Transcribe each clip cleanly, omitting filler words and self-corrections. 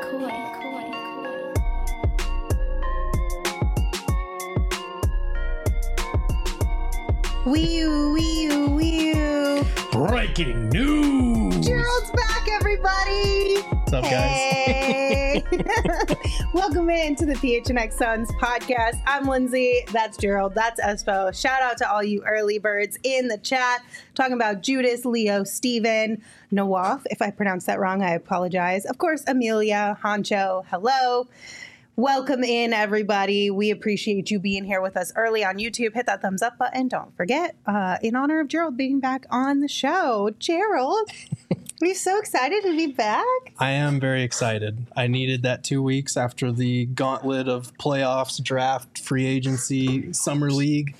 Breaking news! Gerald's back, everybody! What's up, hey. guys? Welcome in to the PHNX Suns podcast. I'm Lindsay. That's Gerald. That's Espo. Shout out to all you early birds in the chat talking about Judas, Leo, Steven, Nawaf. If I pronounced that wrong, I apologize. Of course, Amelia, Honcho. Hello. Welcome in, everybody. We appreciate you being here with us early on YouTube. Hit that thumbs up button. Don't forget, in honor of Gerald being back on the show. Gerald, are you so excited to be back? I am very excited. I needed that 2 weeks after the gauntlet of playoffs, draft, free agency, summer league.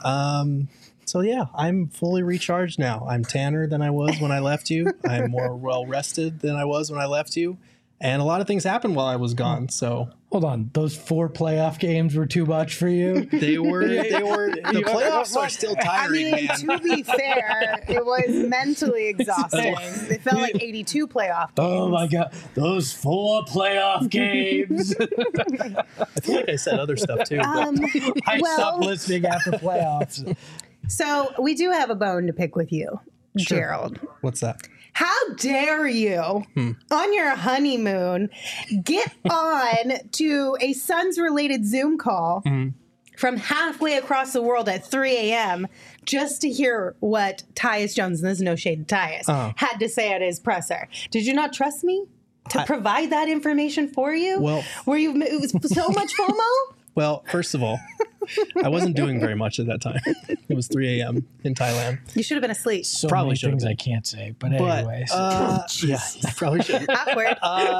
So yeah, I'm fully recharged now. I'm tanner than I was when I left you. I'm more well-rested than I was when I left you. And a lot of things happened while I was gone, so... Hold on, those 4 playoff games were too much for you? They were, the playoffs are still tiring, man. To be fair, it was mentally exhausting. It felt like 82 playoff games. Oh my God, those 4 playoff games. I feel like I said other stuff too. I stopped listening after playoffs. So we do have a bone to pick with you, Sure. Gerald. What's that? How dare you, on your honeymoon, get on to a Suns-related Zoom call from halfway across the world at 3 a.m. just to hear what Tyus Jones, and this is no shade to Tyus, had to say at his presser. Did you not trust me to provide that information for you? Well, it was so much FOMO? Well, first of all, I wasn't doing very much at that time. It was 3 a.m. in Thailand. You should have been asleep. So Probably many should've things been. I can't say, but anyways. Yeah, I probably should. Awkward.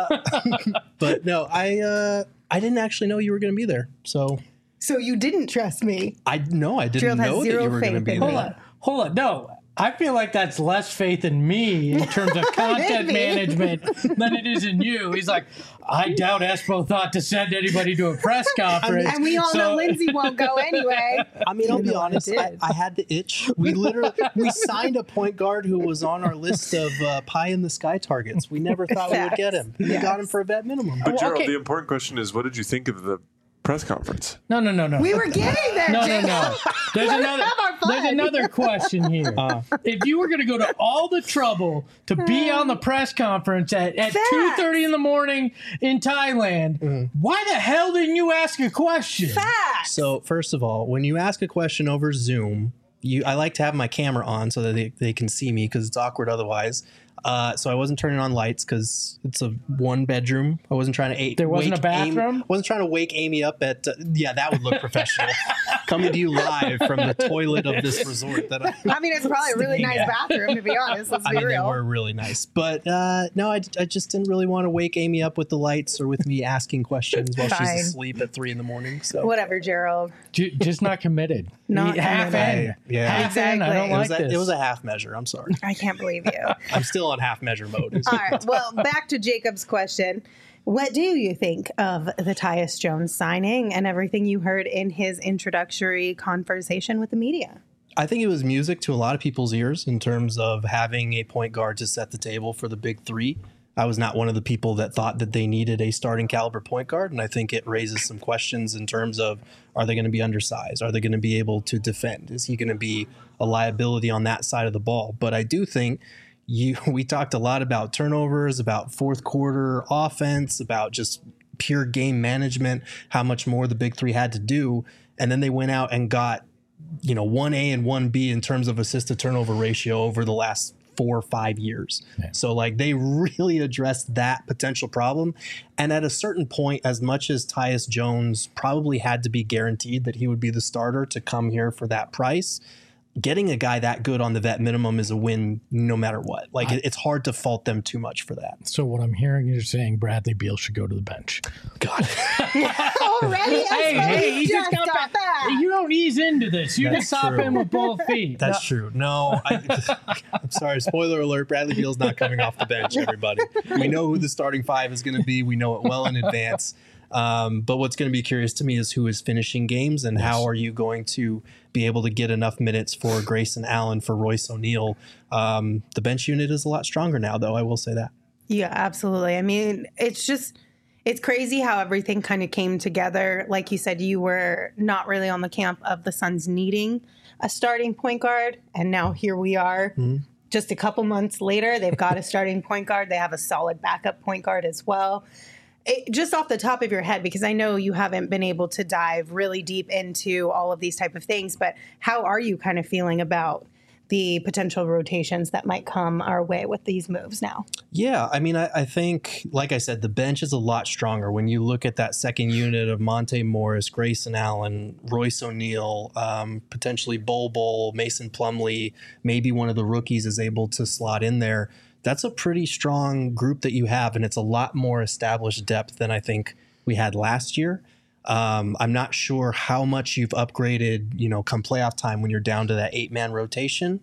But no, I didn't actually know you were going to be there. So You didn't trust me. I didn't Gerald has know that zero you were going to faith be in there. me. Hold on. No, I feel like that's less faith in me in terms of content Maybe. management than it is in you. He's like, I doubt Espo thought to send anybody to a press conference. And we all know Lindsay won't go anyway. I mean, I'll be Even though I honest. did. I had the itch. We signed a point guard who was on our list of pie in the sky targets. We never thought we would get him. We Yes. got him for a vet minimum. But Gerald, okay. the important question is, what did you think of the press conference? No. We were getting there, No. Jacob. There's Let us another. have our fun. There's another question here. If you were going to go to all the trouble to be on the press conference at 2:30 in the morning in Thailand, why the hell didn't you ask a question? Facts. So first of all, when you ask a question over Zoom, I like to have my camera on so that they can see me because it's awkward otherwise. So I wasn't turning on lights because it's a 1-bedroom. I wasn't trying to There wasn't a bathroom? I wasn't trying to wake Amy up at that would look professional. Coming to you live from the toilet of this resort that I mean, it's probably a really nice bathroom, to be honest. Let's be they real. were really nice. But no, I just didn't really want to wake Amy up with the lights or with me asking questions while Fine. she's asleep at 3 a.m. So Whatever, Gerald. Just not committed. Not half committed. in. Yeah. Half in. I Exactly. don't like this. it was a half measure. I'm sorry. I can't believe you. I'm still on half measure mode. All right. Well, back to Jacob's question. What do you think of the Tyus Jones signing and everything you heard in his introductory conversation with the media? I think it was music to a lot of people's ears in terms of having a point guard to set the table for the big three. I was not one of the people that thought that they needed a starting caliber point guard. And I think it raises some questions in terms of, are they going to be undersized? Are they going to be able to defend? Is he going to be a liability on that side of the ball? But I do think we talked a lot about turnovers, about fourth quarter offense, about just pure game management, how much more the big three had to do. And then they went out and got, 1A and 1B in terms of assist to turnover ratio over the last 4 or 5 years. Yeah. So they really addressed that potential problem. And at a certain point, as much as Tyus Jones probably had to be guaranteed that he would be the starter to come here for that price, getting a guy that good on the vet minimum is a win no matter what. It's hard to fault them too much for that. So what I'm hearing is you're saying Bradley Beal should go to the bench. God. Already? Hey, he just got stop that. You don't ease into this. You just hop in with both feet. That's true. No, I'm sorry. Spoiler alert. Bradley Beal's not coming off the bench, everybody. We know who the starting 5 is going to be. We know it well in advance. But what's going to be curious to me is who is finishing games and how are you going to be able to get enough minutes for Grayson Allen, for Royce O'Neal. The bench unit is a lot stronger now, though. I will say that. Yeah, absolutely. I mean, it's just It's crazy how everything kind of came together. Like you said, you were not really on the camp of the Suns needing a starting point guard. And now here we are. Just a couple months later, they've got a starting point guard. They have a solid backup point guard as well. Just off the top of your head, because I know you haven't been able to dive really deep into all of these type of things, but how are you kind of feeling about the potential rotations that might come our way with these moves now? Yeah, I mean, I think, like I said, the bench is a lot stronger. When you look at that second unit of Monte Morris, Grayson Allen, Royce O'Neal, potentially Bol, Mason Plumlee, maybe one of the rookies is able to slot in there. That's a pretty strong group that you have, and it's a lot more established depth than I think we had last year. I'm not sure how much you've upgraded, come playoff time when you're down to that 8-man rotation.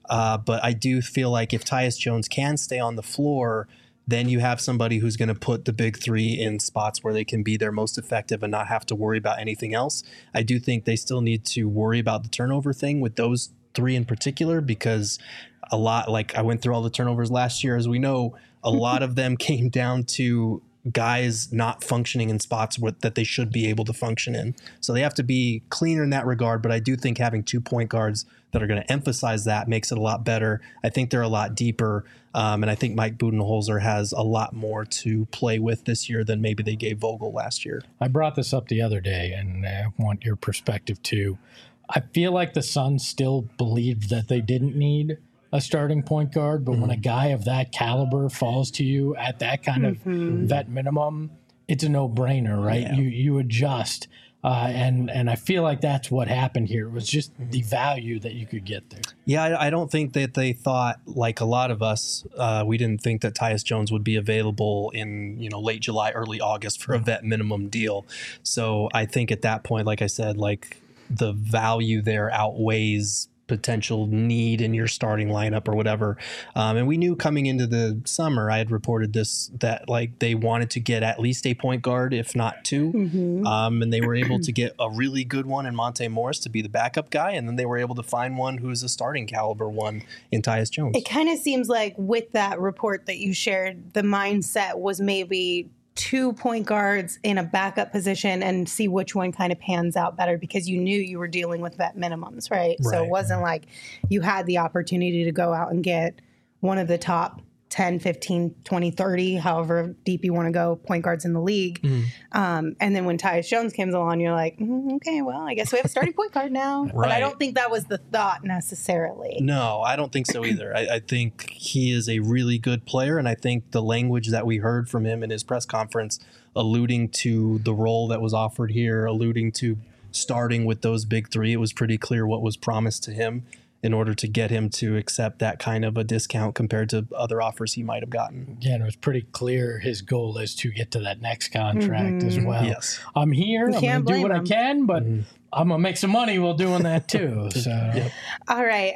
But I do feel like if Tyus Jones can stay on the floor, then you have somebody who's going to put the big three in spots where they can be their most effective and not have to worry about anything else. I do think they still need to worry about the turnover thing with those three in particular, because a lot, like I went through all the turnovers last year, as we know, a lot of them came down to guys not functioning in spots that they should be able to function in. So they have to be cleaner in that regard. But I do think having 2 point guards that are going to emphasize that makes it a lot better. I think they're a lot deeper. And I think Mike Budenholzer has a lot more to play with this year than maybe they gave Vogel last year. I brought this up the other day, and I want your perspective too. I feel like the Suns still believed that they didn't need a starting point guard, but when a guy of that caliber falls to you at that kind of vet minimum, it's a no-brainer, right? Yeah. You adjust, and I feel like that's what happened here. It was just the value that you could get there. Yeah, I don't think that they thought, like a lot of us, we didn't think that Tyus Jones would be available in late July, early August for a vet minimum deal. So I think at that point, like I said, like the value there outweighs potential need in your starting lineup or whatever. And we knew coming into the summer, I had reported this, that like they wanted to get at least a point guard, if not 2. And they were able to get a really good one in Monte Morris to be the backup guy. And then they were able to find one who's a starting caliber one in Tyus Jones. It kind of seems like with that report that you shared, the mindset was maybe 2 point guards in a backup position and see which one kind of pans out better, because you knew you were dealing with vet minimums, right? So it wasn't like you had the opportunity to go out and get one of the top 10, 15, 20, 30, however deep you want to go, point guards in the league. And then when Tyus Jones comes along, you're like, okay, well, I guess we have a starting point guard now. But I don't think that was the thought necessarily. No, I don't think so either. I think he is a really good player, and I think the language that we heard from him in his press conference, alluding to the role that was offered here, alluding to starting with those big three, it was pretty clear what was promised to him in order to get him to accept that kind of a discount compared to other offers he might have gotten. Yeah, and it was pretty clear his goal is to get to that next contract as well. Yes. I'm here. I'm going to do what I can, but I'm going to make some money while doing that too. So. All right.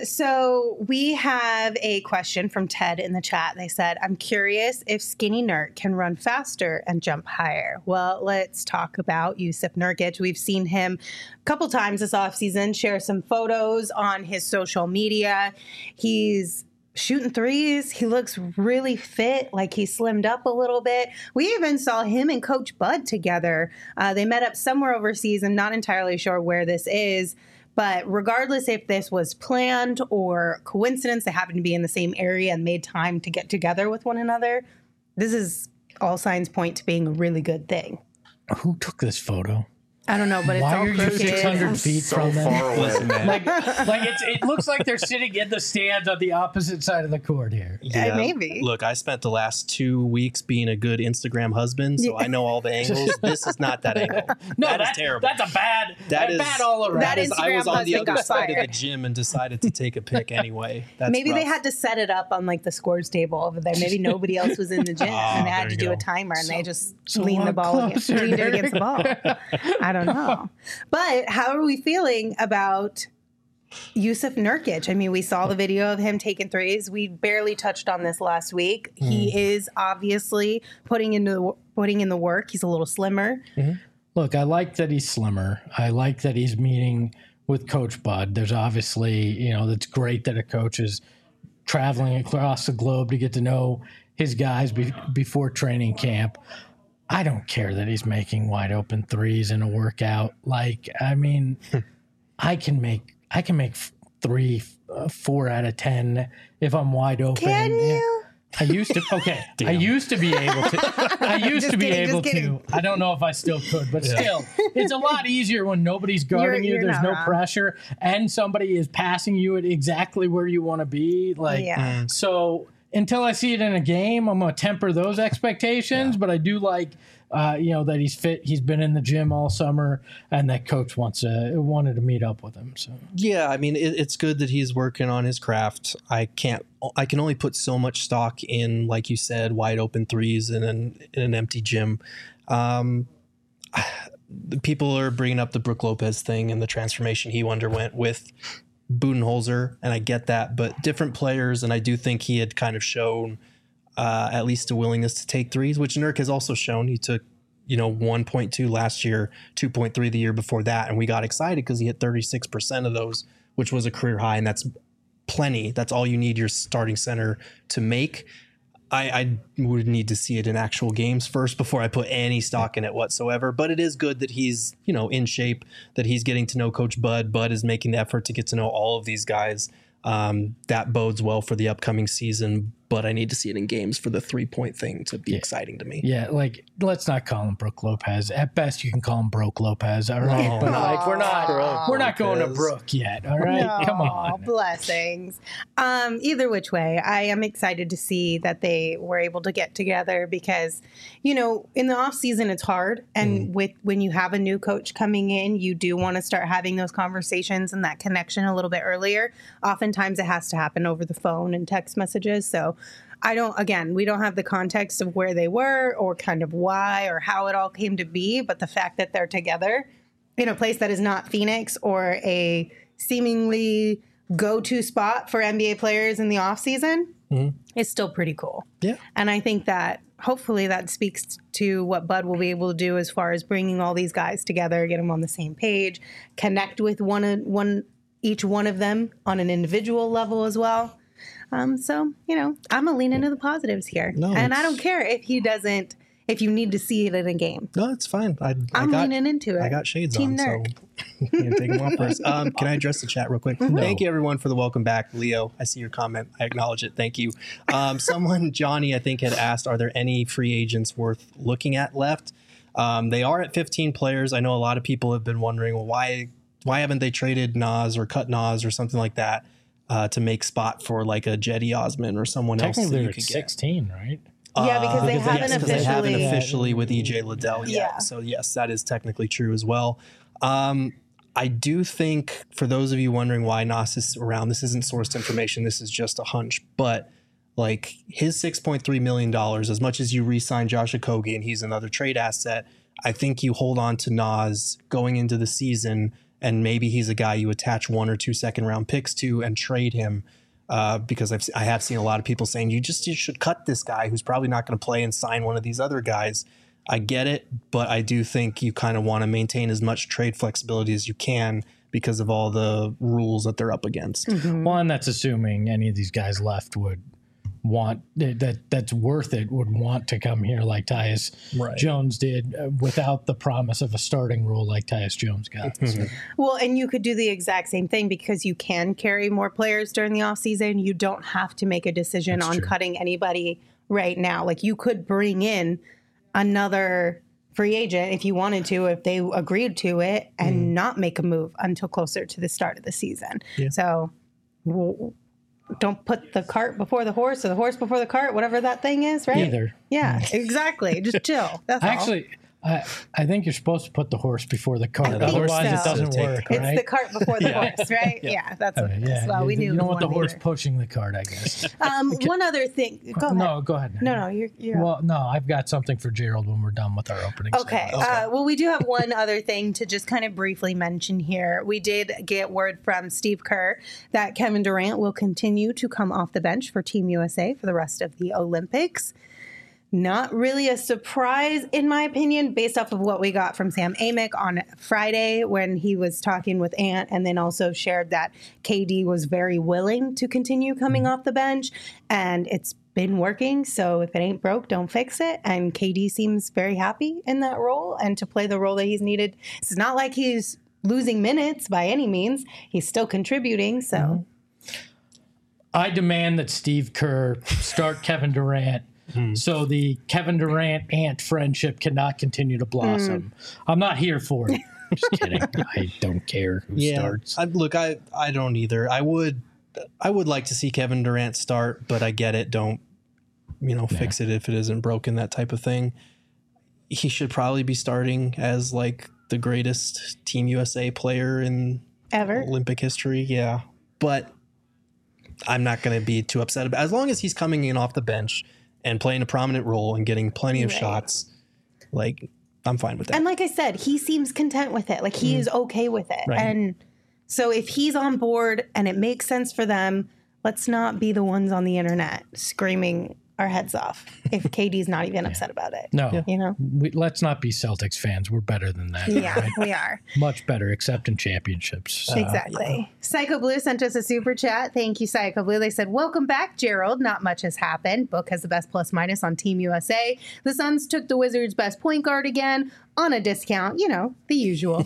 So we have a question from Ted in the chat. They said, I'm curious if Skinny Nurk can run faster and jump higher. Well, let's talk about Jusuf Nurkic. We've seen him a couple times this offseason share some photos on his social media. He's shooting threes. He looks really fit, like he slimmed up a little bit. We even saw him and Coach Bud together. They met up somewhere overseas. I'm not entirely sure where this is, but regardless if this was planned or coincidence, they happened to be in the same area and made time to get together with one another. This is all signs point to being a really good thing. Who took this photo? I don't know, but it's Why all are you crooked. 600 feet So from them? far away, man. Like it looks like they're sitting in the stands on the opposite side of the court here. Yeah, maybe. Look, I spent the last 2 weeks being a good Instagram husband, so I know all the angles. This is not that angle. No, that is terrible. That's a bad. That is bad all around. That is- I was on the Instagram other husband side got of the gym and decided to take a pic anyway. That's Maybe they rough. had to set it up on like the scores table over there. Maybe nobody else was in the gym and they had there to you do a go. timer and they just so leaned the walk ball against, closer, leaned it Derek. against the ball. I don't know. But how are we feeling about Jusuf Nurkic? I mean, we saw the video of him taking threes. We barely touched on this last week. He is obviously putting in the work. He's a little slimmer. Look, I like that he's slimmer. I like that he's meeting with Coach Bud. There's obviously, it's great that a coach is traveling across the globe to get to know his guys before training camp. I don't care that he's making wide open threes in a workout. Like, I mean, I can make 3, 4 out of 10 if I'm wide open. Can you? I used to. Okay, I used to be able to. I used to be able to. I don't know if I still could, but still, it's a lot easier when nobody's guarding you. You're There's not no wrong. pressure, and somebody is passing you at exactly where you want to be. Like, Yeah. so until I see it in a game, I'm gonna temper those expectations. But I do like, that he's fit. He's been in the gym all summer, and that coach wanted to meet up with him. So Yeah, I mean, it's good that he's working on his craft. I can only put so much stock in, like you said, wide open threes in an empty gym. People are bringing up the Brook Lopez thing and the transformation he underwent with Budenholzer, and I get that, but different players, and I do think he had kind of shown at least a willingness to take threes, which Nurk has also shown. He took 1.2 last year, 2.3 the year before that, and we got excited because he hit 36% of those, which was a career high, and that's plenty. That's all you need your starting center to make. I would need to see it in actual games first before I put any stock in it whatsoever. But it is good that he's, in shape, that he's getting to know Coach Bud. Bud is making the effort to get to know all of these guys. That bodes well for the upcoming season, but I need to see it in games for the 3-point thing to be exciting to me. yeah, like let's not call him Brook Lopez. At best, you can call him Broke Lopez. All right, but like we're not going to Brook yet. All right, No, come on. Blessings. Either which way, I am excited to see that they were able to get together because, in the off season it's hard, and when you have a new coach coming in, you do want to start having those conversations and that connection a little bit earlier. Oftentimes it has to happen over the phone and text messages. So we don't have the context of where they were or kind of why or how it all came to be, but the fact that they're together in a place that is not Phoenix or a seemingly go-to spot for NBA players in the offseason is still pretty cool. Yeah. And I think that hopefully that speaks to what Bud will be able to do as far as bringing all these guys together, get them on the same page, connect with each one of them on an individual level as well. So, I'm a lean into the positives here. No, and I don't care if if you need to see it in a game. No, it's fine. I'm leaning into it. I got shades Team on, nerd. so you can take them off first. Can I address the chat real quick? Thank you, everyone, for the welcome back. Leo, I see your comment. I acknowledge it. Thank you. Johnny, I think, had asked, are there any free agents worth looking at left? They are at 15 players. I know a lot of people have been wondering, well, why haven't they traded Nas or cut Nas or something like that to make spot for like a Jetty Osman or someone else that Technically, you they're could get? 16, right? Yeah, because they haven't officially with EJ Liddell yet. Yeah. So yes, that is technically true as well. I do think, for those of you wondering why Nas is around, this isn't sourced information. This is just a hunch. But like his $6.3 million, as much as you re-sign Josh Okogie and he's another trade asset, I think you hold on to Nas going into the season, and maybe he's a guy you attach 1 or 2 second-round picks to and trade him. Because I have seen a lot of people saying you should cut this guy who's probably not going to play and sign one of these other guys. I get it, but I do think you kind of want to maintain as much trade flexibility as you can because of all the rules that they're up against. One, that's assuming any of these guys left would want that's worth it, would want to come here like Tyus Jones did, without the promise of a starting role like Tyus Jones got. So. Well, and you could do the exact same thing because you can carry more players during the offseason. You don't have to make a decision on cutting anybody right now. Like you could bring in another free agent if you wanted to, if they agreed to it, and not make a move until closer to the start of the season. Yeah. So don't put the cart before the horse or the horse before the cart, whatever that thing is, right? Either. Yeah, exactly. Just chill. That's all. Actually, I think you're supposed to put the horse before the cart. think Otherwise, so. it doesn't work, It's right? the cart before the horse, right? Yeah, that's what it is. Well, we knew you it don't was want the one horse either. pushing the cart, I guess. One other thing. Go ahead. No, go ahead. No, you're Well, no, I've got something for Gerald when we're done with our opening. Okay. segment. Well, we do have one other thing to just kind of briefly mention here. We did get word from Steve Kerr that Kevin Durant will continue to come off the bench for Team USA for the rest of the Olympics. Not really a surprise, in my opinion, based off of what we got from Sam Amick on Friday when he was talking with Ant, and then also shared that KD was very willing to continue coming off the bench. And it's been working. So if it ain't broke, don't fix it. And KD seems very happy in that role and to play the role that he's needed. It's not like he's losing minutes by any means. He's still contributing. So I demand that Steve Kerr start Kevin Durant so the Kevin Durant-Ant friendship cannot continue to blossom. I'm not here for it. Just kidding. I don't care who starts. I don't either. I would like to see Kevin Durant start, but I get it. Don't, fix it if it isn't broken, that type of thing. He should probably be starting as like the greatest Team USA player in ever Olympic history. Yeah. But I'm not going to be too upset about it. As long as he's coming in off the bench and playing a prominent role and getting plenty of shots, like, I'm fine with that. And like I said, he seems content with it. Like he is okay with it. Right. And so if he's on board and it makes sense for them, let's not be the ones on the internet screaming our heads off if KD's not even upset about it. No. You know? Let's not be Celtics fans. We're better than that. Yeah, right? we are. Much better, except in championships. Exactly. Psycho Blue sent us a super chat. Thank you, Psycho Blue. They said, welcome back, Gerald. Not much has happened. Book has the best plus minus on Team USA. The Suns took the Wizards' best point guard again on a discount. The usual.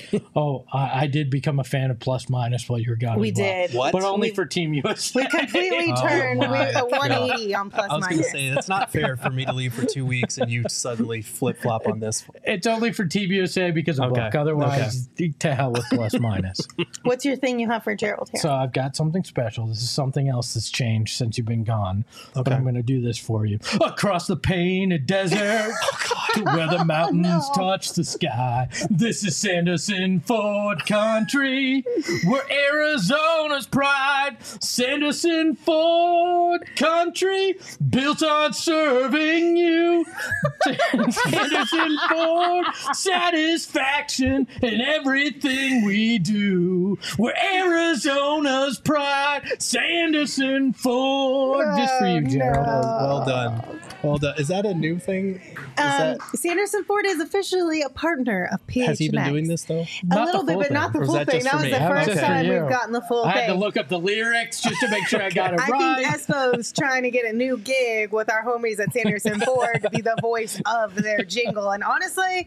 I did become a fan of plus minus while you were gone. We as well. did. What? But only for Team USA. We completely turned my a 180 on plus I was going to minus. say, it's not fair for me to leave for 2 weeks and you suddenly flip-flop on this. It's only for Team USA because of Okay. Book. Otherwise, to hell with plus minus. What's your thing you have for Gerald here? So I've got something special. This is something else that's changed since you've been gone. But I'm going to do this for you. Across the painted desert to where the mountains touch the sky. This is Sanderson Ford Country, where Arizona's pride. Sanderson Ford Country, built on serving you. Sanderson Ford, satisfaction in everything we do. We're Arizona's pride. Sanderson Ford. Just for you, Gerald. Well done. Well done. Is that a new thing? Sanderson Ford is officially a partner of PHNX. Has he been doing this, though? A Not little the bit, full but thing. not the Or is full that thing. just That for was me? the That was first just for time you. we've gotten the full I thing. had to look up the lyrics just to make sure I got it I right. think Espo's trying to get a new gig with our homies at Sanderson Ford to be the voice of their jingle. And honestly,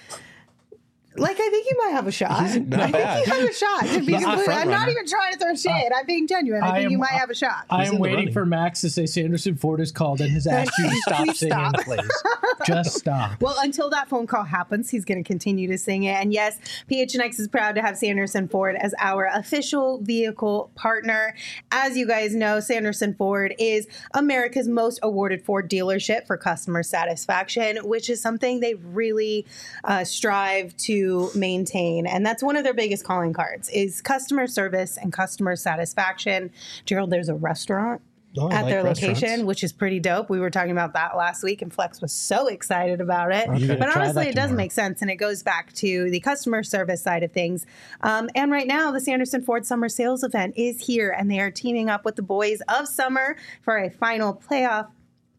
I think you might have a shot. I think not bad. you have a shot. To be He's the completely, front I'm not runner. even trying to throw shade. I'm being genuine. I think you might have a shot. I He's am in the waiting running. for Max to say Sanderson Ford is called and has asked you to stop Please singing, stop. please. Just stop. Well, until that phone call happens, he's going to continue to sing it. And yes, PHNX is proud to have Sanderson Ford as our official vehicle partner. As you guys know, Sanderson Ford is America's most awarded Ford dealership for customer satisfaction, which is something they really strive to maintain. And that's one of their biggest calling cards is customer service and customer satisfaction. Gerald, there's a restaurant Oh, I at like their restaurants. location, which is pretty dope. We were talking about that last week, and Flex was so excited about it. Okay. But Try honestly, that it does tomorrow. make sense, and it goes back to the customer service side of things. And right now, the Sanderson Ford Summer Sales Event is here, and they are teaming up with the Boys of Summer for a final payoff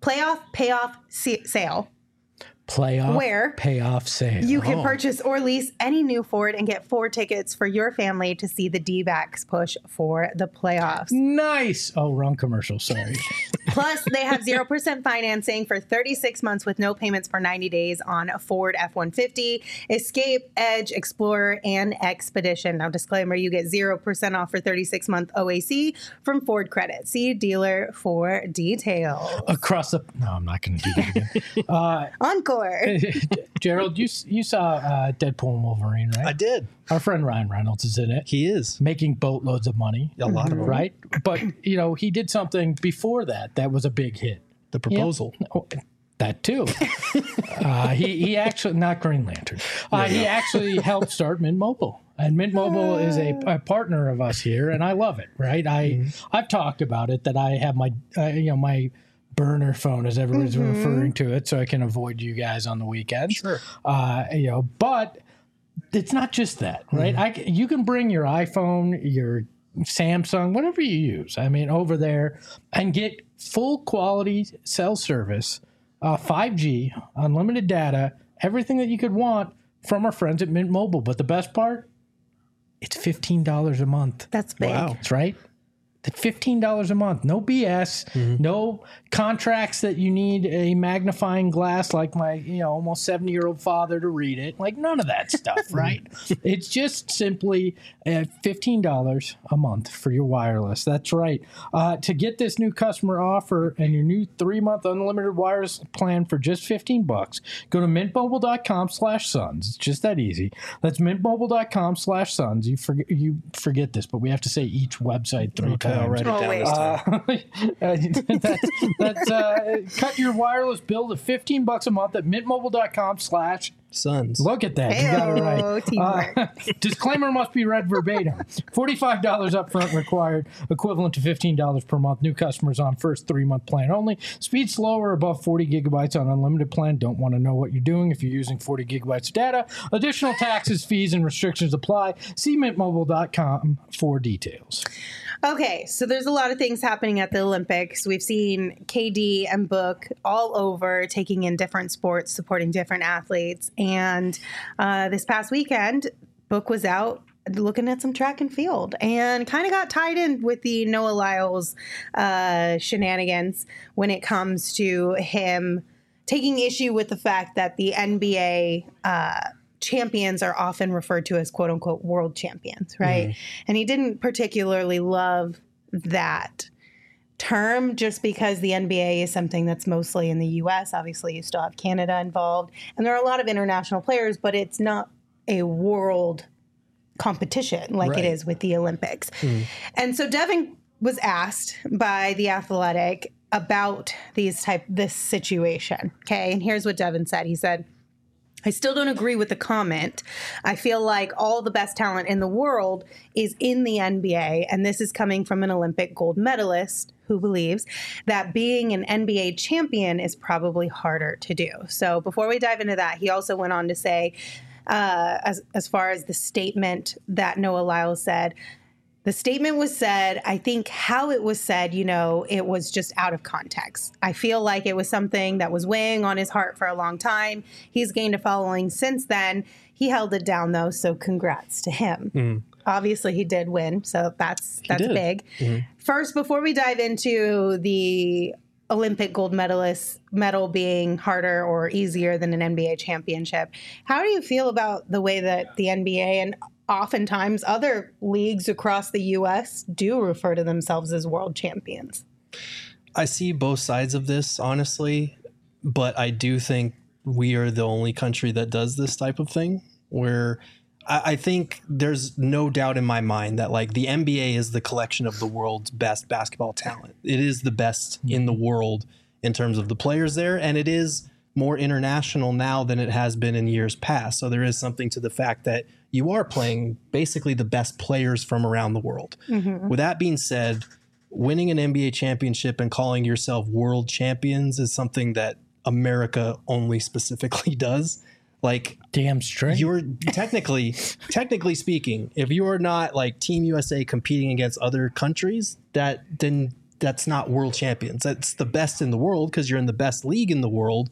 sale. Playoff Where payoff sale. You can purchase or lease any new Ford and get 4 tickets for your family to see the D-backs push for the playoffs. Nice. Oh, wrong commercial. Sorry. Plus, they have 0% financing for 36 months with no payments for 90 days on a Ford F-150, Escape, Edge, Explorer, and Expedition. Now, disclaimer, you get 0% off for 36-month OAC from Ford Credit. See dealer for details. Across the. No, I'm not going to do that again. Encore. Gerald, you saw Deadpool and Wolverine, right? I did. Our friend Ryan Reynolds is in it. He is. Making boatloads of money. A lot of them. Right? But, he did something before that was a big hit. The proposal. Oh, that too. He actually, not Green Lantern. He actually helped start Mint Mobile. And Mint Mobile is a partner of us here, and I love it, right? I've talked about it, that I have my, my burner phone, as everyone's referring to it, so I can avoid you guys on the weekends. Sure. But it's not just that, right? You can bring your iPhone, your Samsung, whatever you use, over there and get full quality cell service, 5G, unlimited data, everything that you could want from our friends at Mint Mobile. But the best part, it's $15 a month. That's big. Wow. That's right. $15 a month. No BS. No contracts that you need a magnifying glass like my, almost 70-year-old father to read it. Like none of that stuff, right? It's just simply $15 a month for your wireless. That's right. To get this new customer offer and your new 3-month unlimited wireless plan for just $15, go to mintmobile.com/sons. It's just that easy. That's mintmobile.com/sons. You forget this, but we have to say each website 3 times. I'll write it down this time. That's cut your wireless bill to $15 a month at mintmobile.com/sons. Look at that. You got it right. Teamwork. Disclaimer must be read verbatim. $45 upfront required, equivalent to $15 per month. New customers on first 3-month plan only. Speed slower, above 40 gigabytes on unlimited plan. Don't want to know what you're doing if you're using 40 gigabytes of data. Additional taxes, fees, and restrictions apply. See mintmobile.com for details. Okay, so there's a lot of things happening at the Olympics. We've seen KD and Book all over, taking in different sports, supporting different athletes. And this past weekend, Book was out looking at some track and field and kind of got tied in with the Noah Lyles shenanigans when it comes to him taking issue with the fact that the NBA champions are often referred to as quote unquote world champions, right? And he didn't particularly love that term just because the NBA is something that's mostly in the US. Obviously, you still have Canada involved, and there are a lot of international players, but it's not a world competition like it is with the Olympics. And so Devin was asked by The Athletic about this situation. Okay, and here's what Devin said. He said, I still don't agree with the comment. I feel like all the best talent in the world is in the NBA, and this is coming from an Olympic gold medalist who believes that being an NBA champion is probably harder to do. So before we dive into that, he also went on to say, as far as the statement that Noah Lyles said, the statement was said, I think how it was said, it was just out of context. I feel like it was something that was weighing on his heart for a long time. He's gained a following since then. He held it down, though, so congrats to him. Obviously, he did win, so that's big. First, before we dive into the Olympic gold medal being harder or easier than an NBA championship, how do you feel about the way that the NBA and oftentimes other leagues across the U.S. do refer to themselves as world champions? I see both sides of this, honestly, but I do think we are the only country that does this type of thing, where I think there's no doubt in my mind that like the NBA is the collection of the world's best basketball talent. It is the best in the world in terms of the players there, and it is more international now than it has been in years past. So there is something to the fact that you are playing basically the best players from around the world. With that being said, winning an NBA championship and calling yourself world champions is something that America only specifically does. Like, damn straight. You're technically speaking, if you are not like Team USA competing against other countries, then that's not world champions. That's the best in the world because you're in the best league in the world.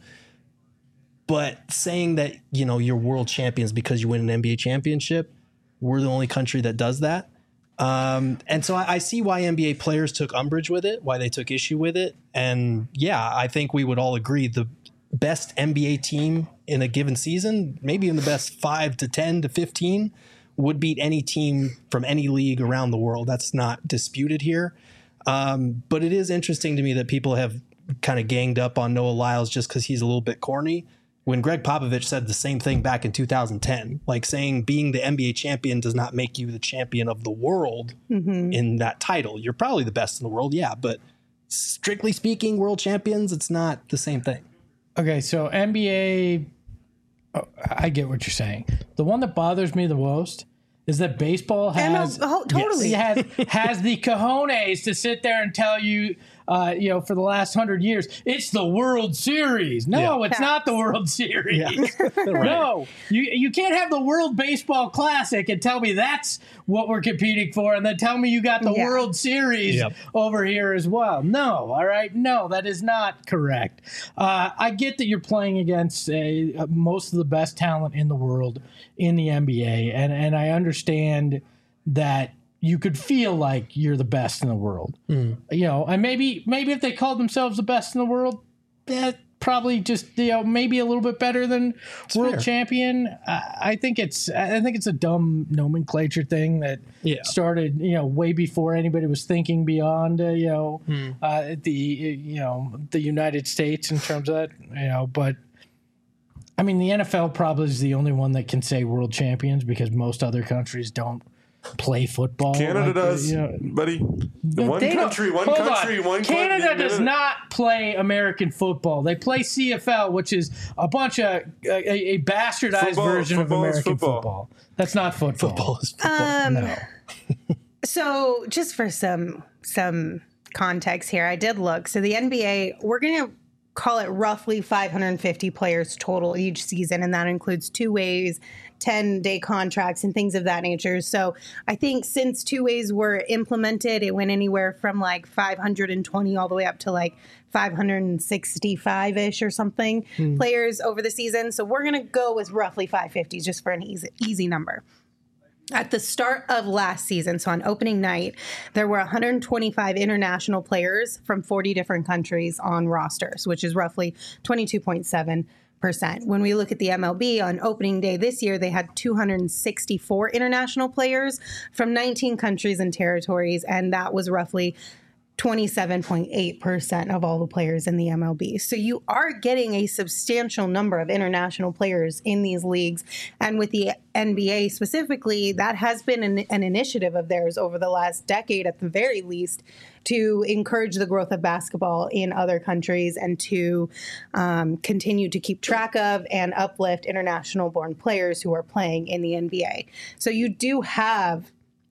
But saying that, you're world champions because you win an NBA championship, we're the only country that does that. And so I see why NBA players took umbrage with it, why they took issue with it. And yeah, I think we would all agree the best NBA team in a given season, maybe in the best 5 to 10 to 15, would beat any team from any league around the world. That's not disputed here. But it is interesting to me that people have kind of ganged up on Noah Lyles just because he's a little bit corny, when Greg Popovich said the same thing back in 2010, like saying being the NBA champion does not make you the champion of the world in that title. You're probably the best in the world, yeah, but strictly speaking, world champions, it's not the same thing. Okay, so NBA, I get what you're saying. The one that bothers me the most is that baseball has totally has the cojones to sit there and tell you, for the last 100 years, it's the World Series. No, it's not the World Series. Yeah. No, you can't have the World Baseball Classic and tell me that's what we're competing for, and then tell me you got the World Series over here as well. No, all right, no, that is not correct. I get that you're playing against most of the best talent in the world in the NBA, and I understand that you could feel like you're the best in the world. You know, and maybe if they called themselves the best in the world, that probably just, you know, maybe a little bit better than world champion. I think it's a dumb nomenclature thing that started, you know, way before anybody was thinking beyond, the United States in terms of that, you know. But I mean, the NFL probably is the only one that can say world champions because most other countries don't play football. Canada does, buddy. One country. Canada does not play American football. They play CFL, which is a bunch of a bastardized version of American football. That's not football. Football is football. No. So just for some context here, I did look. So the NBA, we're going to call it roughly 550 players total each season, and that includes two-ways, 10-day contracts, and things of that nature. So I think since two-ways were implemented, it went anywhere from like 520 all the way up to like 565-ish or something players over the season. So we're going to go with roughly 550 just for an easy number. At the start of last season, so on opening night, there were 125 international players from 40 different countries on rosters, which is roughly 22.7%. When we look at the MLB on opening day this year, they had 264 international players from 19 countries and territories, and that was roughly 27.8% of all the players in the MLB. So you are getting a substantial number of international players in these leagues. And with the NBA specifically, that has been an initiative of theirs over the last decade, at the very least, to encourage the growth of basketball in other countries and to continue to keep track of and uplift international-born players who are playing in the NBA. So you do have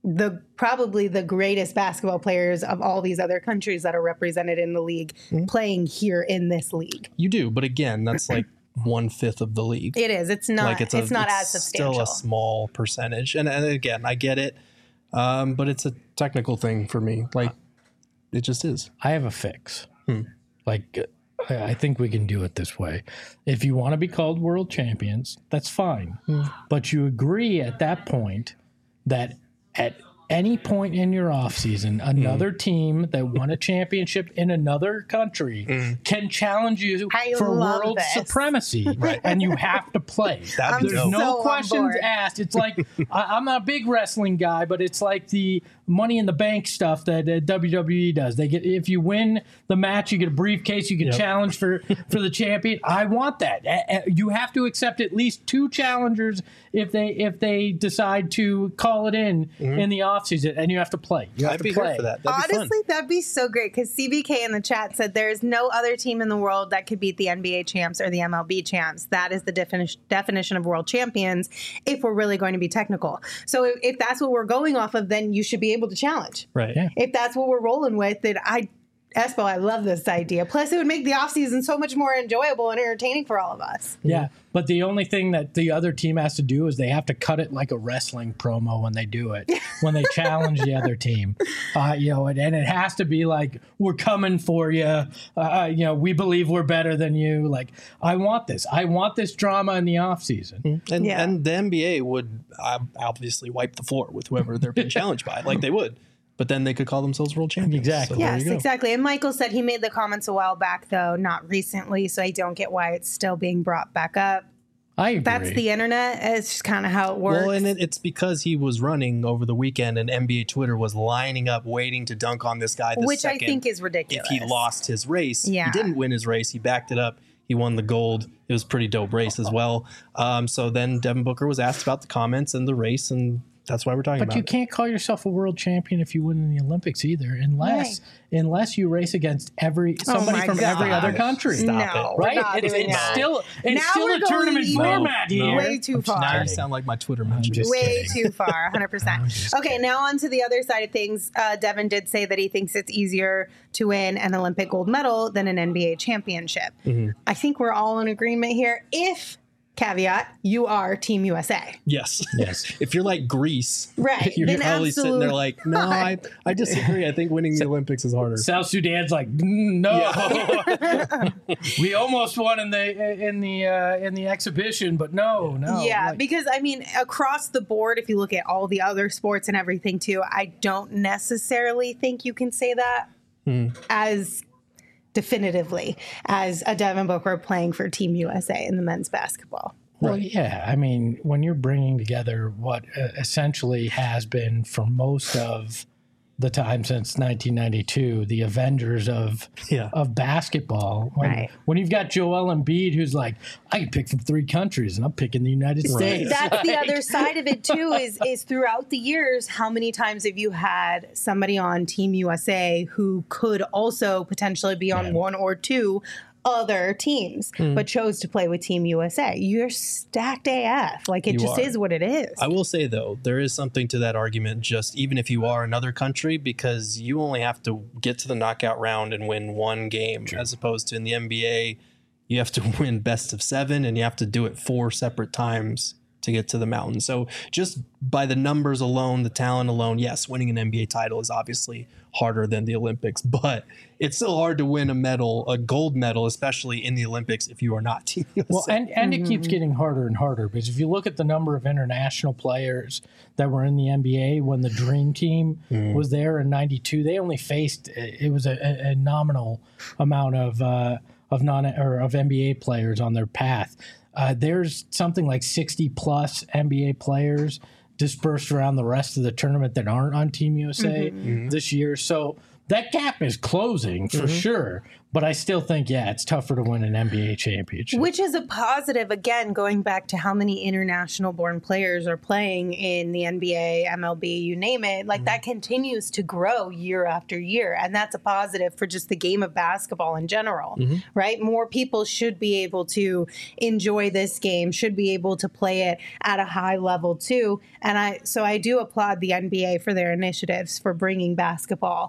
probably the greatest basketball players of all these other countries that are represented in the league playing here in this league. You do, but again, that's like 1/5 of the league. It is. It's not. Like it's not as substantial. Still a small percentage, and again, I get it, but it's a technical thing for me. Like it just is. I have a fix. Like I think we can do it this way. If you want to be called world champions, that's fine, but you agree at that point that at any point in your offseason, another team that won a championship in another country can challenge you for world supremacy, and you have to play. There's no questions asked. It's like, I'm not a big wrestling guy, but it's like the Money in the Bank stuff that WWE does. They get, if you win the match, you get a briefcase, you can challenge for the champion. I want that. You have to accept at least 2 challengers if they decide to call it in the offseason, and you have to play. You have to play. Here for that. Honestly, that'd be so great, because CBK in the chat said there's no other team in the world that could beat the NBA champs or the MLB champs. That is the definition of world champions if we're really going to be technical. So if that's what we're going off of, then you should be able to challenge. Right. Yeah. If that's what we're rolling with, then Espo, I love this idea. Plus, it would make the offseason so much more enjoyable and entertaining for all of us. Yeah, but the only thing that the other team has to do is they have to cut it like a wrestling promo when they do it, when they challenge the other team. And it has to be like, we're coming for you. We believe we're better than you. Like, I want this. I want this drama in the offseason. And the NBA would obviously wipe the floor with whoever they're being challenged by, like they would. But then they could call themselves world champions. Exactly. So yes, exactly. And Michael said he made the comments a while back, though, not recently. So I don't get why it's still being brought back up. I agree. That's the internet. It's just kind of how it works. Well, and it's because he was running over the weekend, and NBA Twitter was lining up, waiting to dunk on this guy. Which I think is ridiculous. If he lost his race, he didn't win his race. He backed it up. He won the gold. It was a pretty dope race as well. So then Devin Booker was asked about the comments and the race, and that's why we're talking about it. But you can't call yourself a world champion if you win in the Olympics either, unless you race against somebody from every other country. Stop it. Right? It's still a tournament format here. Way too far. Now you sound like my Twitter mention. Way too far, 100%. Okay, now on to the other side of things. Devin did say that he thinks it's easier to win an Olympic gold medal than an NBA championship. I think we're all in agreement here. If caveat, you are Team USA. Yes. Yes. If you're like Greece, Right. you're then probably sitting there like, no, not. I disagree. I think winning the Olympics is harder. South Sudan's like, no. We almost won in the exhibition, but no. Yeah, Like, because I mean, across the board, if you look at all the other sports and everything too, I don't necessarily think you can say that as definitively as a Devin Booker playing for Team USA in the men's basketball. well, yeah. I mean, when you're bringing together what essentially has been for most of the time since 1992, the Avengers of basketball. When you've got Joel Embiid, who's like, I can pick from 3 countries, and I'm picking the United States. That's the other side of it too. Is throughout the years, how many times have you had somebody on Team USA who could also potentially be on one or two other teams, but chose to play with Team USA? You're stacked AF. Like, it just is what it is. I will say, though, there is something to that argument, just even if you are another country, because you only have to get to the knockout round and win one game, as opposed to in the NBA, you have to win best of 7 and you have to do it 4 separate times to get to the mountain. So just by the numbers alone, the talent alone, yes, winning an NBA title is obviously harder than the Olympics, but it's still hard to win a gold medal, especially in the Olympics, if you are not Team USA. Well, and it keeps getting harder and harder, because if you look at the number of international players that were in the NBA when the Dream Team was there in '92, they only faced, it was a nominal amount of NBA players on their path. There's something like 60 plus NBA players dispersed around the rest of the tournament that aren't on Team USA this year. So that gap is closing for sure. But I still think, it's tougher to win an NBA championship. Which is a positive, again, going back to how many international-born players are playing in the NBA, MLB, you name it. Like, that continues to grow year after year. And that's a positive for just the game of basketball in general, right? More people should be able to enjoy this game, should be able to play it at a high level, too. And I do applaud the NBA for their initiatives for bringing basketball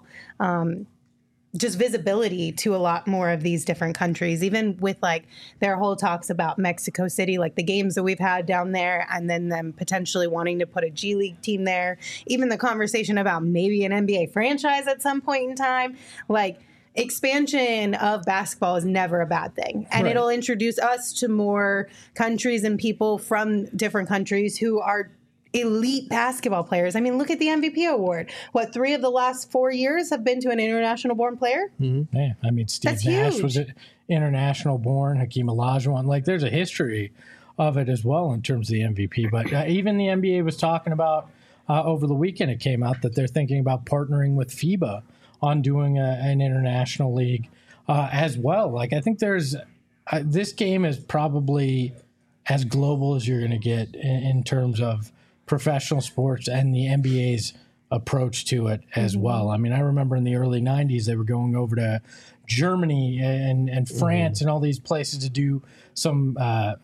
just visibility to a lot more of these different countries, even with like their whole talks about Mexico City, like the games that we've had down there, and then them potentially wanting to put a G League team there, even the conversation about maybe an NBA franchise at some point in time. Like, expansion of basketball is never a bad thing. And it'll introduce us to more countries and people from different countries who are elite basketball players. I mean, look at the MVP award. 3 of the last 4 years have been to an international born player? Yeah, I mean, Steve Nash was international born, Hakeem Olajuwon. Like, there's a history of it as well in terms of the MVP. But even the NBA was talking about over the weekend, it came out that they're thinking about partnering with FIBA on doing an international league as well. Like, I think there's this game is probably as global as you're going to get in terms of professional sports and the NBA's approach to it as well. I mean, I remember in the early 90s, they were going over to Germany and France and all these places to do some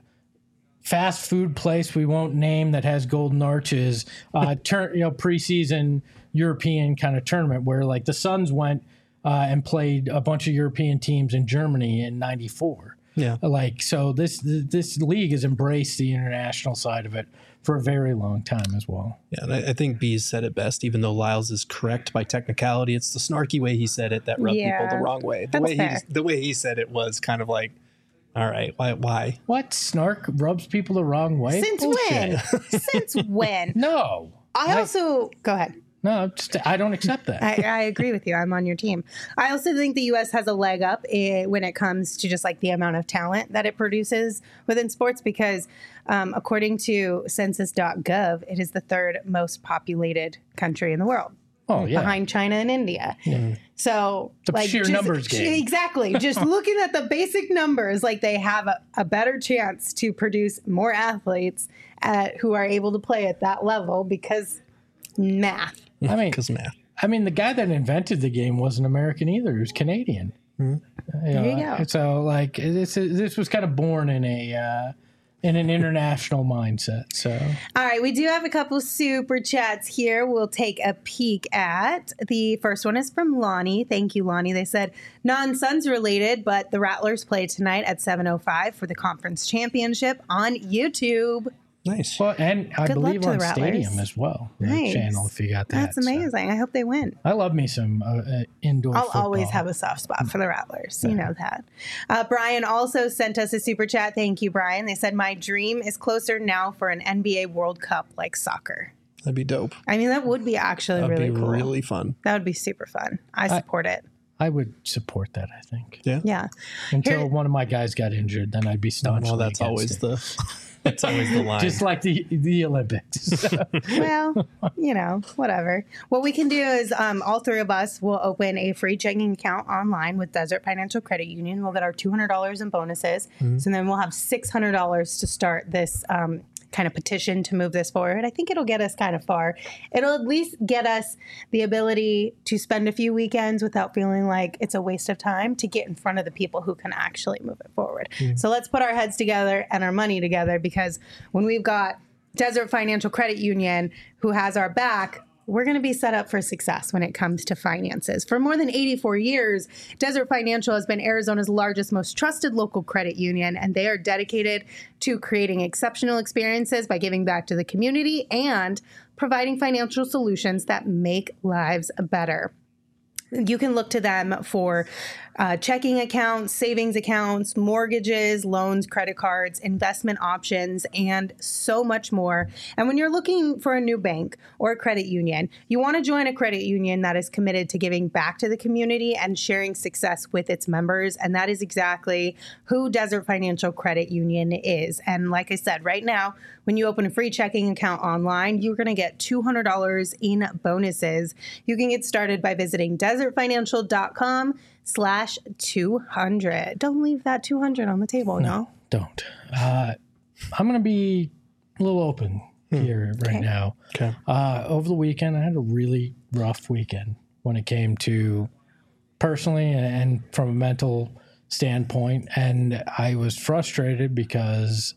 fast food place we won't name that has golden arches, preseason European kind of tournament where like the Suns went and played a bunch of European teams in Germany in '94. Yeah, like so this league has embraced the international side of it for a very long time as well. Yeah, and I think Bees said it best, even though Lyles is correct by technicality. It's the snarky way he said it that rubbed people the wrong way. The way he said it was kind of like, all right, why? What? Snark rubs people the wrong way? Since when? Since when? No. Go ahead. No, I don't accept that. I agree with you. I'm on your team. I also think the U.S. has a leg up when it comes to just like the amount of talent that it produces within sports because according to census.gov, it is the 3rd most populated country in the world. Oh, yeah. Behind China and India. Yeah. So the sheer numbers game. Exactly. Just looking at the basic numbers, like they have a better chance to produce more athletes who are able to play at that level because math. I mean, the guy that invented the game wasn't American either. He was Canadian. There you go. So, like, this was kind of born in a in an international mindset. So, all right, we do have a couple super chats here. We'll take a peek at. The first one is from Lonnie. Thank you, Lonnie. They said, non-Suns related, but the Rattlers play tonight at 7:05 for the conference championship on YouTube. Nice. Well, and I believe on Stadium as well. Nice. Channel, if you got that. That's amazing. So. I hope they win. I love me some indoor I'll football. always have a soft spot for the Rattlers. You know that. Brian also sent us a super chat. Thank you, Brian. They said, my dream is closer now for an NBA World Cup like soccer. That'd be dope. I mean, that would be actually really cool. That'd be really fun. That would be super fun. I support it. I would support that, I think. Yeah. Until one of my guys got injured, then I'd be staunchly Well, that's always the... That's always the line. Just like the Olympics. Well, you know, whatever. What we can do is all three of us will open a free checking account online with Desert Financial Credit Union. We'll get our $200 in bonuses. Mm-hmm. So then we'll have $600 to start this kind of petition to move this forward. I think it'll get us kind of far. It'll at least get us the ability to spend a few weekends without feeling like it's a waste of time to get in front of the people who can actually move it forward. Mm. So let's put our heads together and our money together, because when we've got Desert Financial Credit Union who has our back, we're going to be set up for success when it comes to finances. For more than 84 years, Desert Financial has been Arizona's largest, most trusted local credit union, and they are dedicated to creating exceptional experiences by giving back to the community and providing financial solutions that make lives better. You can look to them for checking accounts, savings accounts, mortgages, loans, credit cards, investment options, and so much more. And when you're looking for a new bank or a credit union, you want to join a credit union that is committed to giving back to the community and sharing success with its members. And that is exactly who Desert Financial Credit Union is. And like I said, right now, when you open a free checking account online, you're going to get $200 in bonuses. You can get started by visiting desertfinancial.com/200. Don't leave that 200 on the table, no? Don't. I'm going to be a little open here right now. Okay. Over the weekend, I had a really rough weekend when it came to personally and from a mental standpoint. And I was frustrated because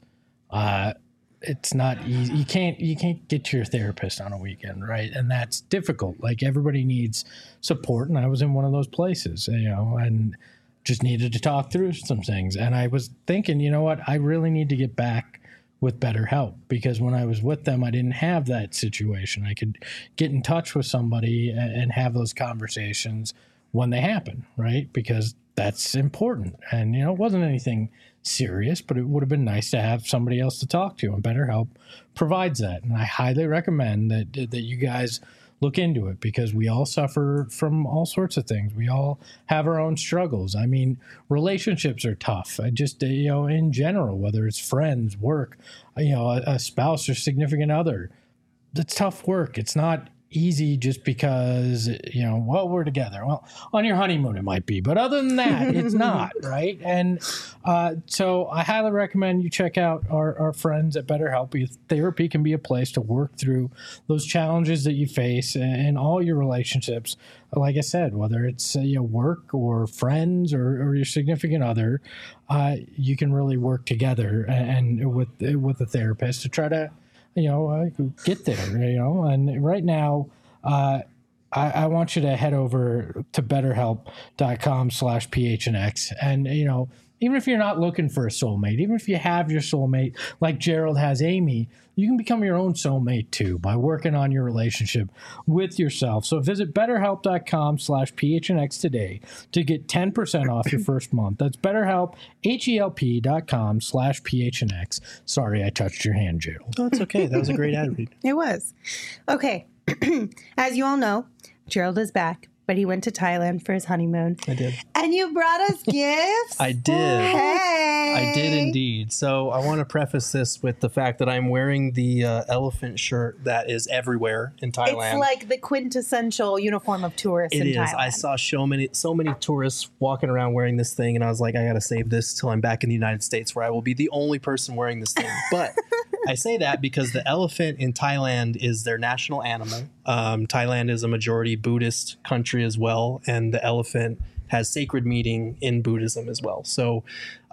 it's not easy. You can't get to your therapist on a weekend, right? And that's difficult. Like, everybody needs support, and I was in one of those places, and just needed to talk through some things. And I was thinking, you know what? I really need to get back with BetterHelp, because when I was with them, I didn't have that situation. I could get in touch with somebody and have those conversations when they happen, right? Because that's important. And, it wasn't anything serious, but it would have been nice to have somebody else to talk to, and BetterHelp provides that. And I highly recommend that you guys look into it, because we all suffer from all sorts of things. We all have our own struggles. I mean, relationships are tough. I just, in general, whether it's friends, work, a spouse or significant other, it's tough work. It's not easy just because, we're together. Well, on your honeymoon it might be, but other than that, it's not, right? And so I highly recommend you check out our friends at BetterHelp. Therapy can be a place to work through those challenges that you face in all your relationships. Like I said, whether it's work or friends or your significant other, you can really work together and with a therapist to try to get there, and right now, I want you to head over to betterhelp.com/PHNX. And, even if you're not looking for a soulmate, even if you have your soulmate, like Gerald has Amy, you can become your own soulmate too by working on your relationship with yourself. So visit betterhelp.com/PHNX today to get 10% off your first month. That's BetterHelp, HELP.com/PHNX. Sorry, I touched your hand, Gerald. Oh, it's okay. That was a great ad read. It was. Okay. As you all know, Gerald is back, but he went to Thailand for his honeymoon. I did. And you brought us gifts? I did. Hey. I did indeed. So I want to preface this with the fact that I'm wearing the elephant shirt that is everywhere in Thailand. It's like the quintessential uniform of tourists in Thailand. It is. I saw so many tourists walking around wearing this thing, and I was like, I got to save this till I'm back in the United States, where I will be the only person wearing this thing. But I say that because the elephant in Thailand is their national animal. Thailand is a majority Buddhist country as well, and the elephant has sacred meaning in Buddhism as well. So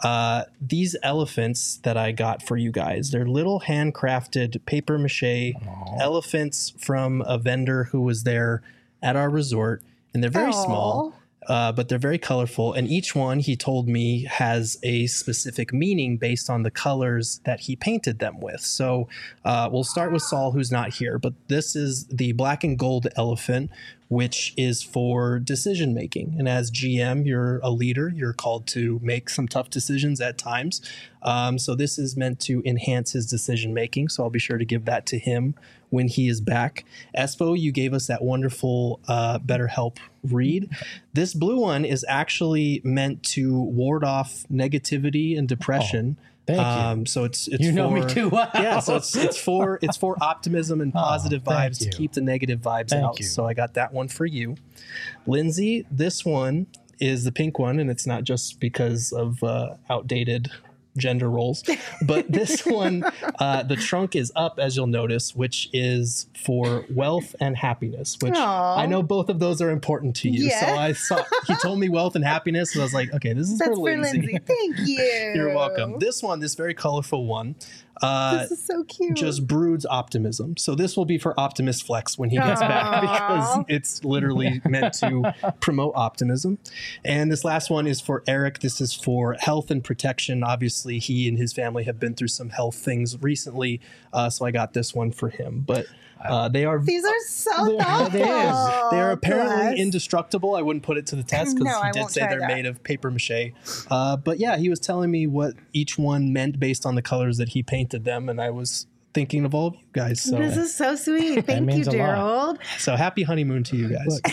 these elephants that I got for you guys, they're little handcrafted paper mache elephants from a vendor who was there at our resort, and they're very small. But they're very colorful, and each one, he told me, has a specific meaning based on the colors that he painted them with. So we'll start with Saul, who's not here, but this is the black and gold elephant, which is for decision making. And as GM, you're a leader. You're called to make some tough decisions at times. So this is meant to enhance his decision making. So I'll be sure to give that to him when he is back. Espo, you gave us that wonderful BetterHelp read. This blue one is actually meant to ward off negativity and depression. Thank you. So it's you know me too well. Yeah, so it's for optimism and positive vibes to keep the negative vibes out. So I got that one for you. Lindsay, this one is the pink one, and it's not just because of outdated gender roles, but this one, the trunk is up, as you'll notice, which is for wealth and happiness, which I know both of those are important to you. So I saw, he told me wealth and happiness, and I was like, okay, this is for Lindsay. Thank you. You're welcome. This one, this very colorful one, this is so cute. just broods optimism. So this will be for Optimus Flex when he gets back, because it's literally meant to promote optimism. And this last one is for Eric. This is for health and protection. Obviously, he and his family have been through some health things recently, so I got this one for him. But these are so thoughtful. They are apparently indestructible. I wouldn't put it to the test because he did say they're made of paper mache. But yeah, he was telling me what each one meant based on the colors that he painted them, and I was thinking of all of you guys. So this is so sweet. Thank you, Gerald. So happy honeymoon to you guys.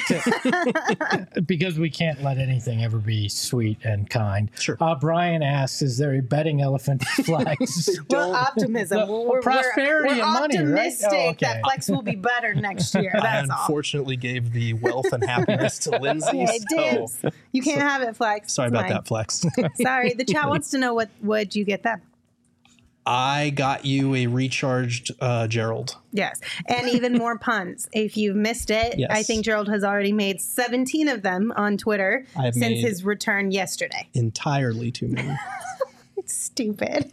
Look, because we can't let anything ever be sweet and kind. Sure. Brian asks, is there a betting elephant Flex? Well, optimism. We're prosperity and money, right? optimistic that Flex will be better next year. That's I unfortunately gave the wealth and happiness to Lindsay. So you can't have it, Flex. Sorry about that, Flex. Sorry. The chat wants to know what you get them. I got you a recharged Gerald. Yes. And even more puns. If you've missed it, I think Gerald has already made 17 of them on Twitter since his return yesterday. Entirely too many. Stupid.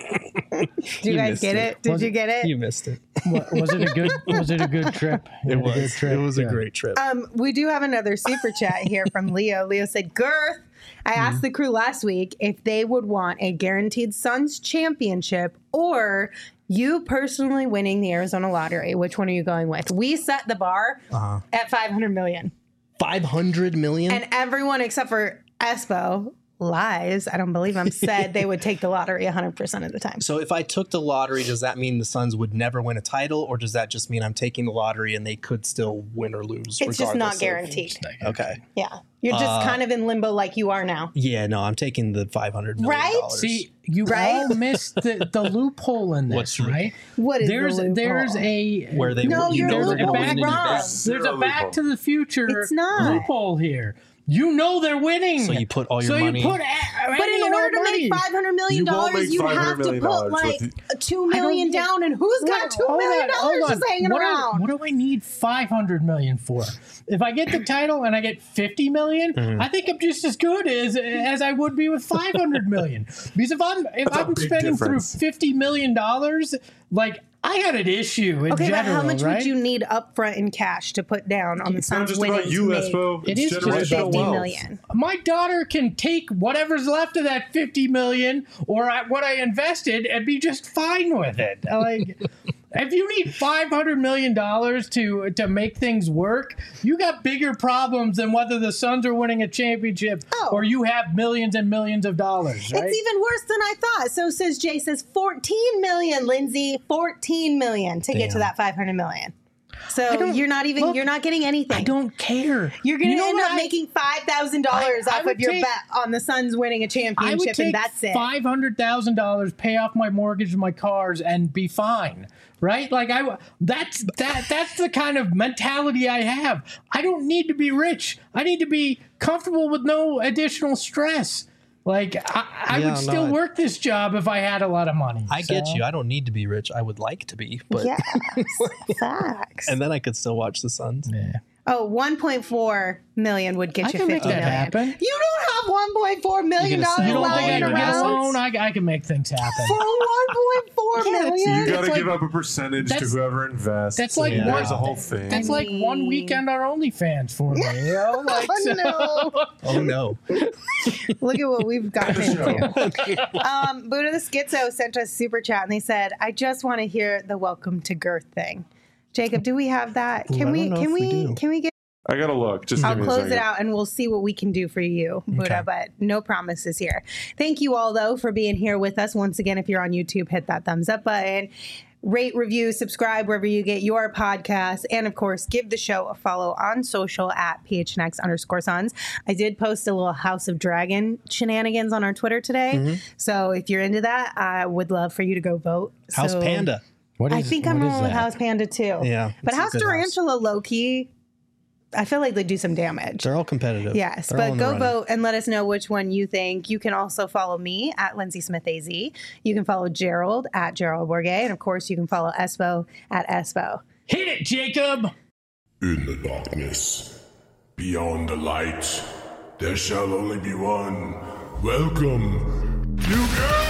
Did you guys get it? Did you get it? You missed it. Was it a good trip? It was a great trip. We do have another super chat here from Leo. Leo said, Girth, I asked the crew last week if they would want a guaranteed Suns championship or you personally winning the Arizona lottery. Which one are you going with? We set the bar at $500 million. 500 million? And everyone except for Espo lies, I don't believe him, said they would take the lottery 100% of the time. So if I took the lottery, does that mean the Suns would never win a title, or does that just mean I'm taking the lottery and they could still win or lose? It's just not guaranteed. Okay. Yeah. You're just kind of in limbo like you are now. Yeah, no, I'm taking the $500 million. Right? See, you all missed the loophole in this, right? What is the loophole? There's a... Where they you're looking wrong. There's a Back to the Future loophole here. You know they're winning. So you put all your money. But in order to make $500 million, you have to put like $2 million down. And who's got $2 million just hanging around? What do I need $500 million for? If I get the title and I get $50 million, I think I'm just as good as I would be with $500 million. Because if I'm spending through $50 million, like, I had an issue in general, but how much would you need upfront in cash to put down on the Suns winning? It's not just about you, Espo. It is just $50 million. My daughter can take whatever's left of that $50 million or what I invested and be just fine with it. Like, if you need $500 million to make things work, you got bigger problems than whether the Suns are winning a championship or you have millions and millions of dollars. Right? It's even worse than I thought. So says Jay, says 14 million, Lindsay, 14 million to get to that 500 million. So you're not getting anything. I don't care. You're going to end up making $5,000 off of your bet on the Suns winning a championship, and that's it. $500,000, pay off my mortgage and my cars, and be fine. Right? Like that's the kind of mentality I have. I don't need to be rich. I need to be comfortable with no additional stress. Like, I would still work this job if I had a lot of money. I get you. I don't need to be rich. I would like to be. But facts. And then I could still watch the Suns. Yeah. Oh, 1.4 million would get I you can 50 make that million. happen. You don't have $1.4 million You You don't think I lying can get a around loan? I can make things happen. for 1.4 million? You got to like- give up a percentage to that's- whoever invests. that's like and one- there's a whole thing. That's like one weekend on OnlyFans for me. You know? Like, Oh, no. Oh no. Look at what we've gotten into. Buddha the Schizo sent us super chat and they said, I just want to hear the welcome to girth thing. Jacob, do we have that? Ooh, I don't know if we do. Can we get I got to look. Just I'll give me a close second. it out and we'll see what we can do for you, Buddha, Okay. but no promises here. Thank you all, though, for being here with us. Once again, if you're on YouTube, hit that thumbs up button. Rate, review, subscribe wherever you get your podcasts. And, of course, give the show a follow on social at PHNX_Sons. I did post a little House of Dragon shenanigans on our Twitter today. So if you're into that, I would love for you to go vote. House So Panda. I think I'm rolling with House Panda, too. Yeah, But it's a House good house. Tarantula, low-key, I feel like they do some damage. They're all competitive. Yes, They're all but in the go running. vote and let us know which one you think. You can also follow me at Lindsay Smith AZ. You can follow Gerald at Gerald Bourget. And of course, you can follow Espo at Espo. hit it, Jacob. In the darkness, beyond the light, there shall only be one. Welcome to God!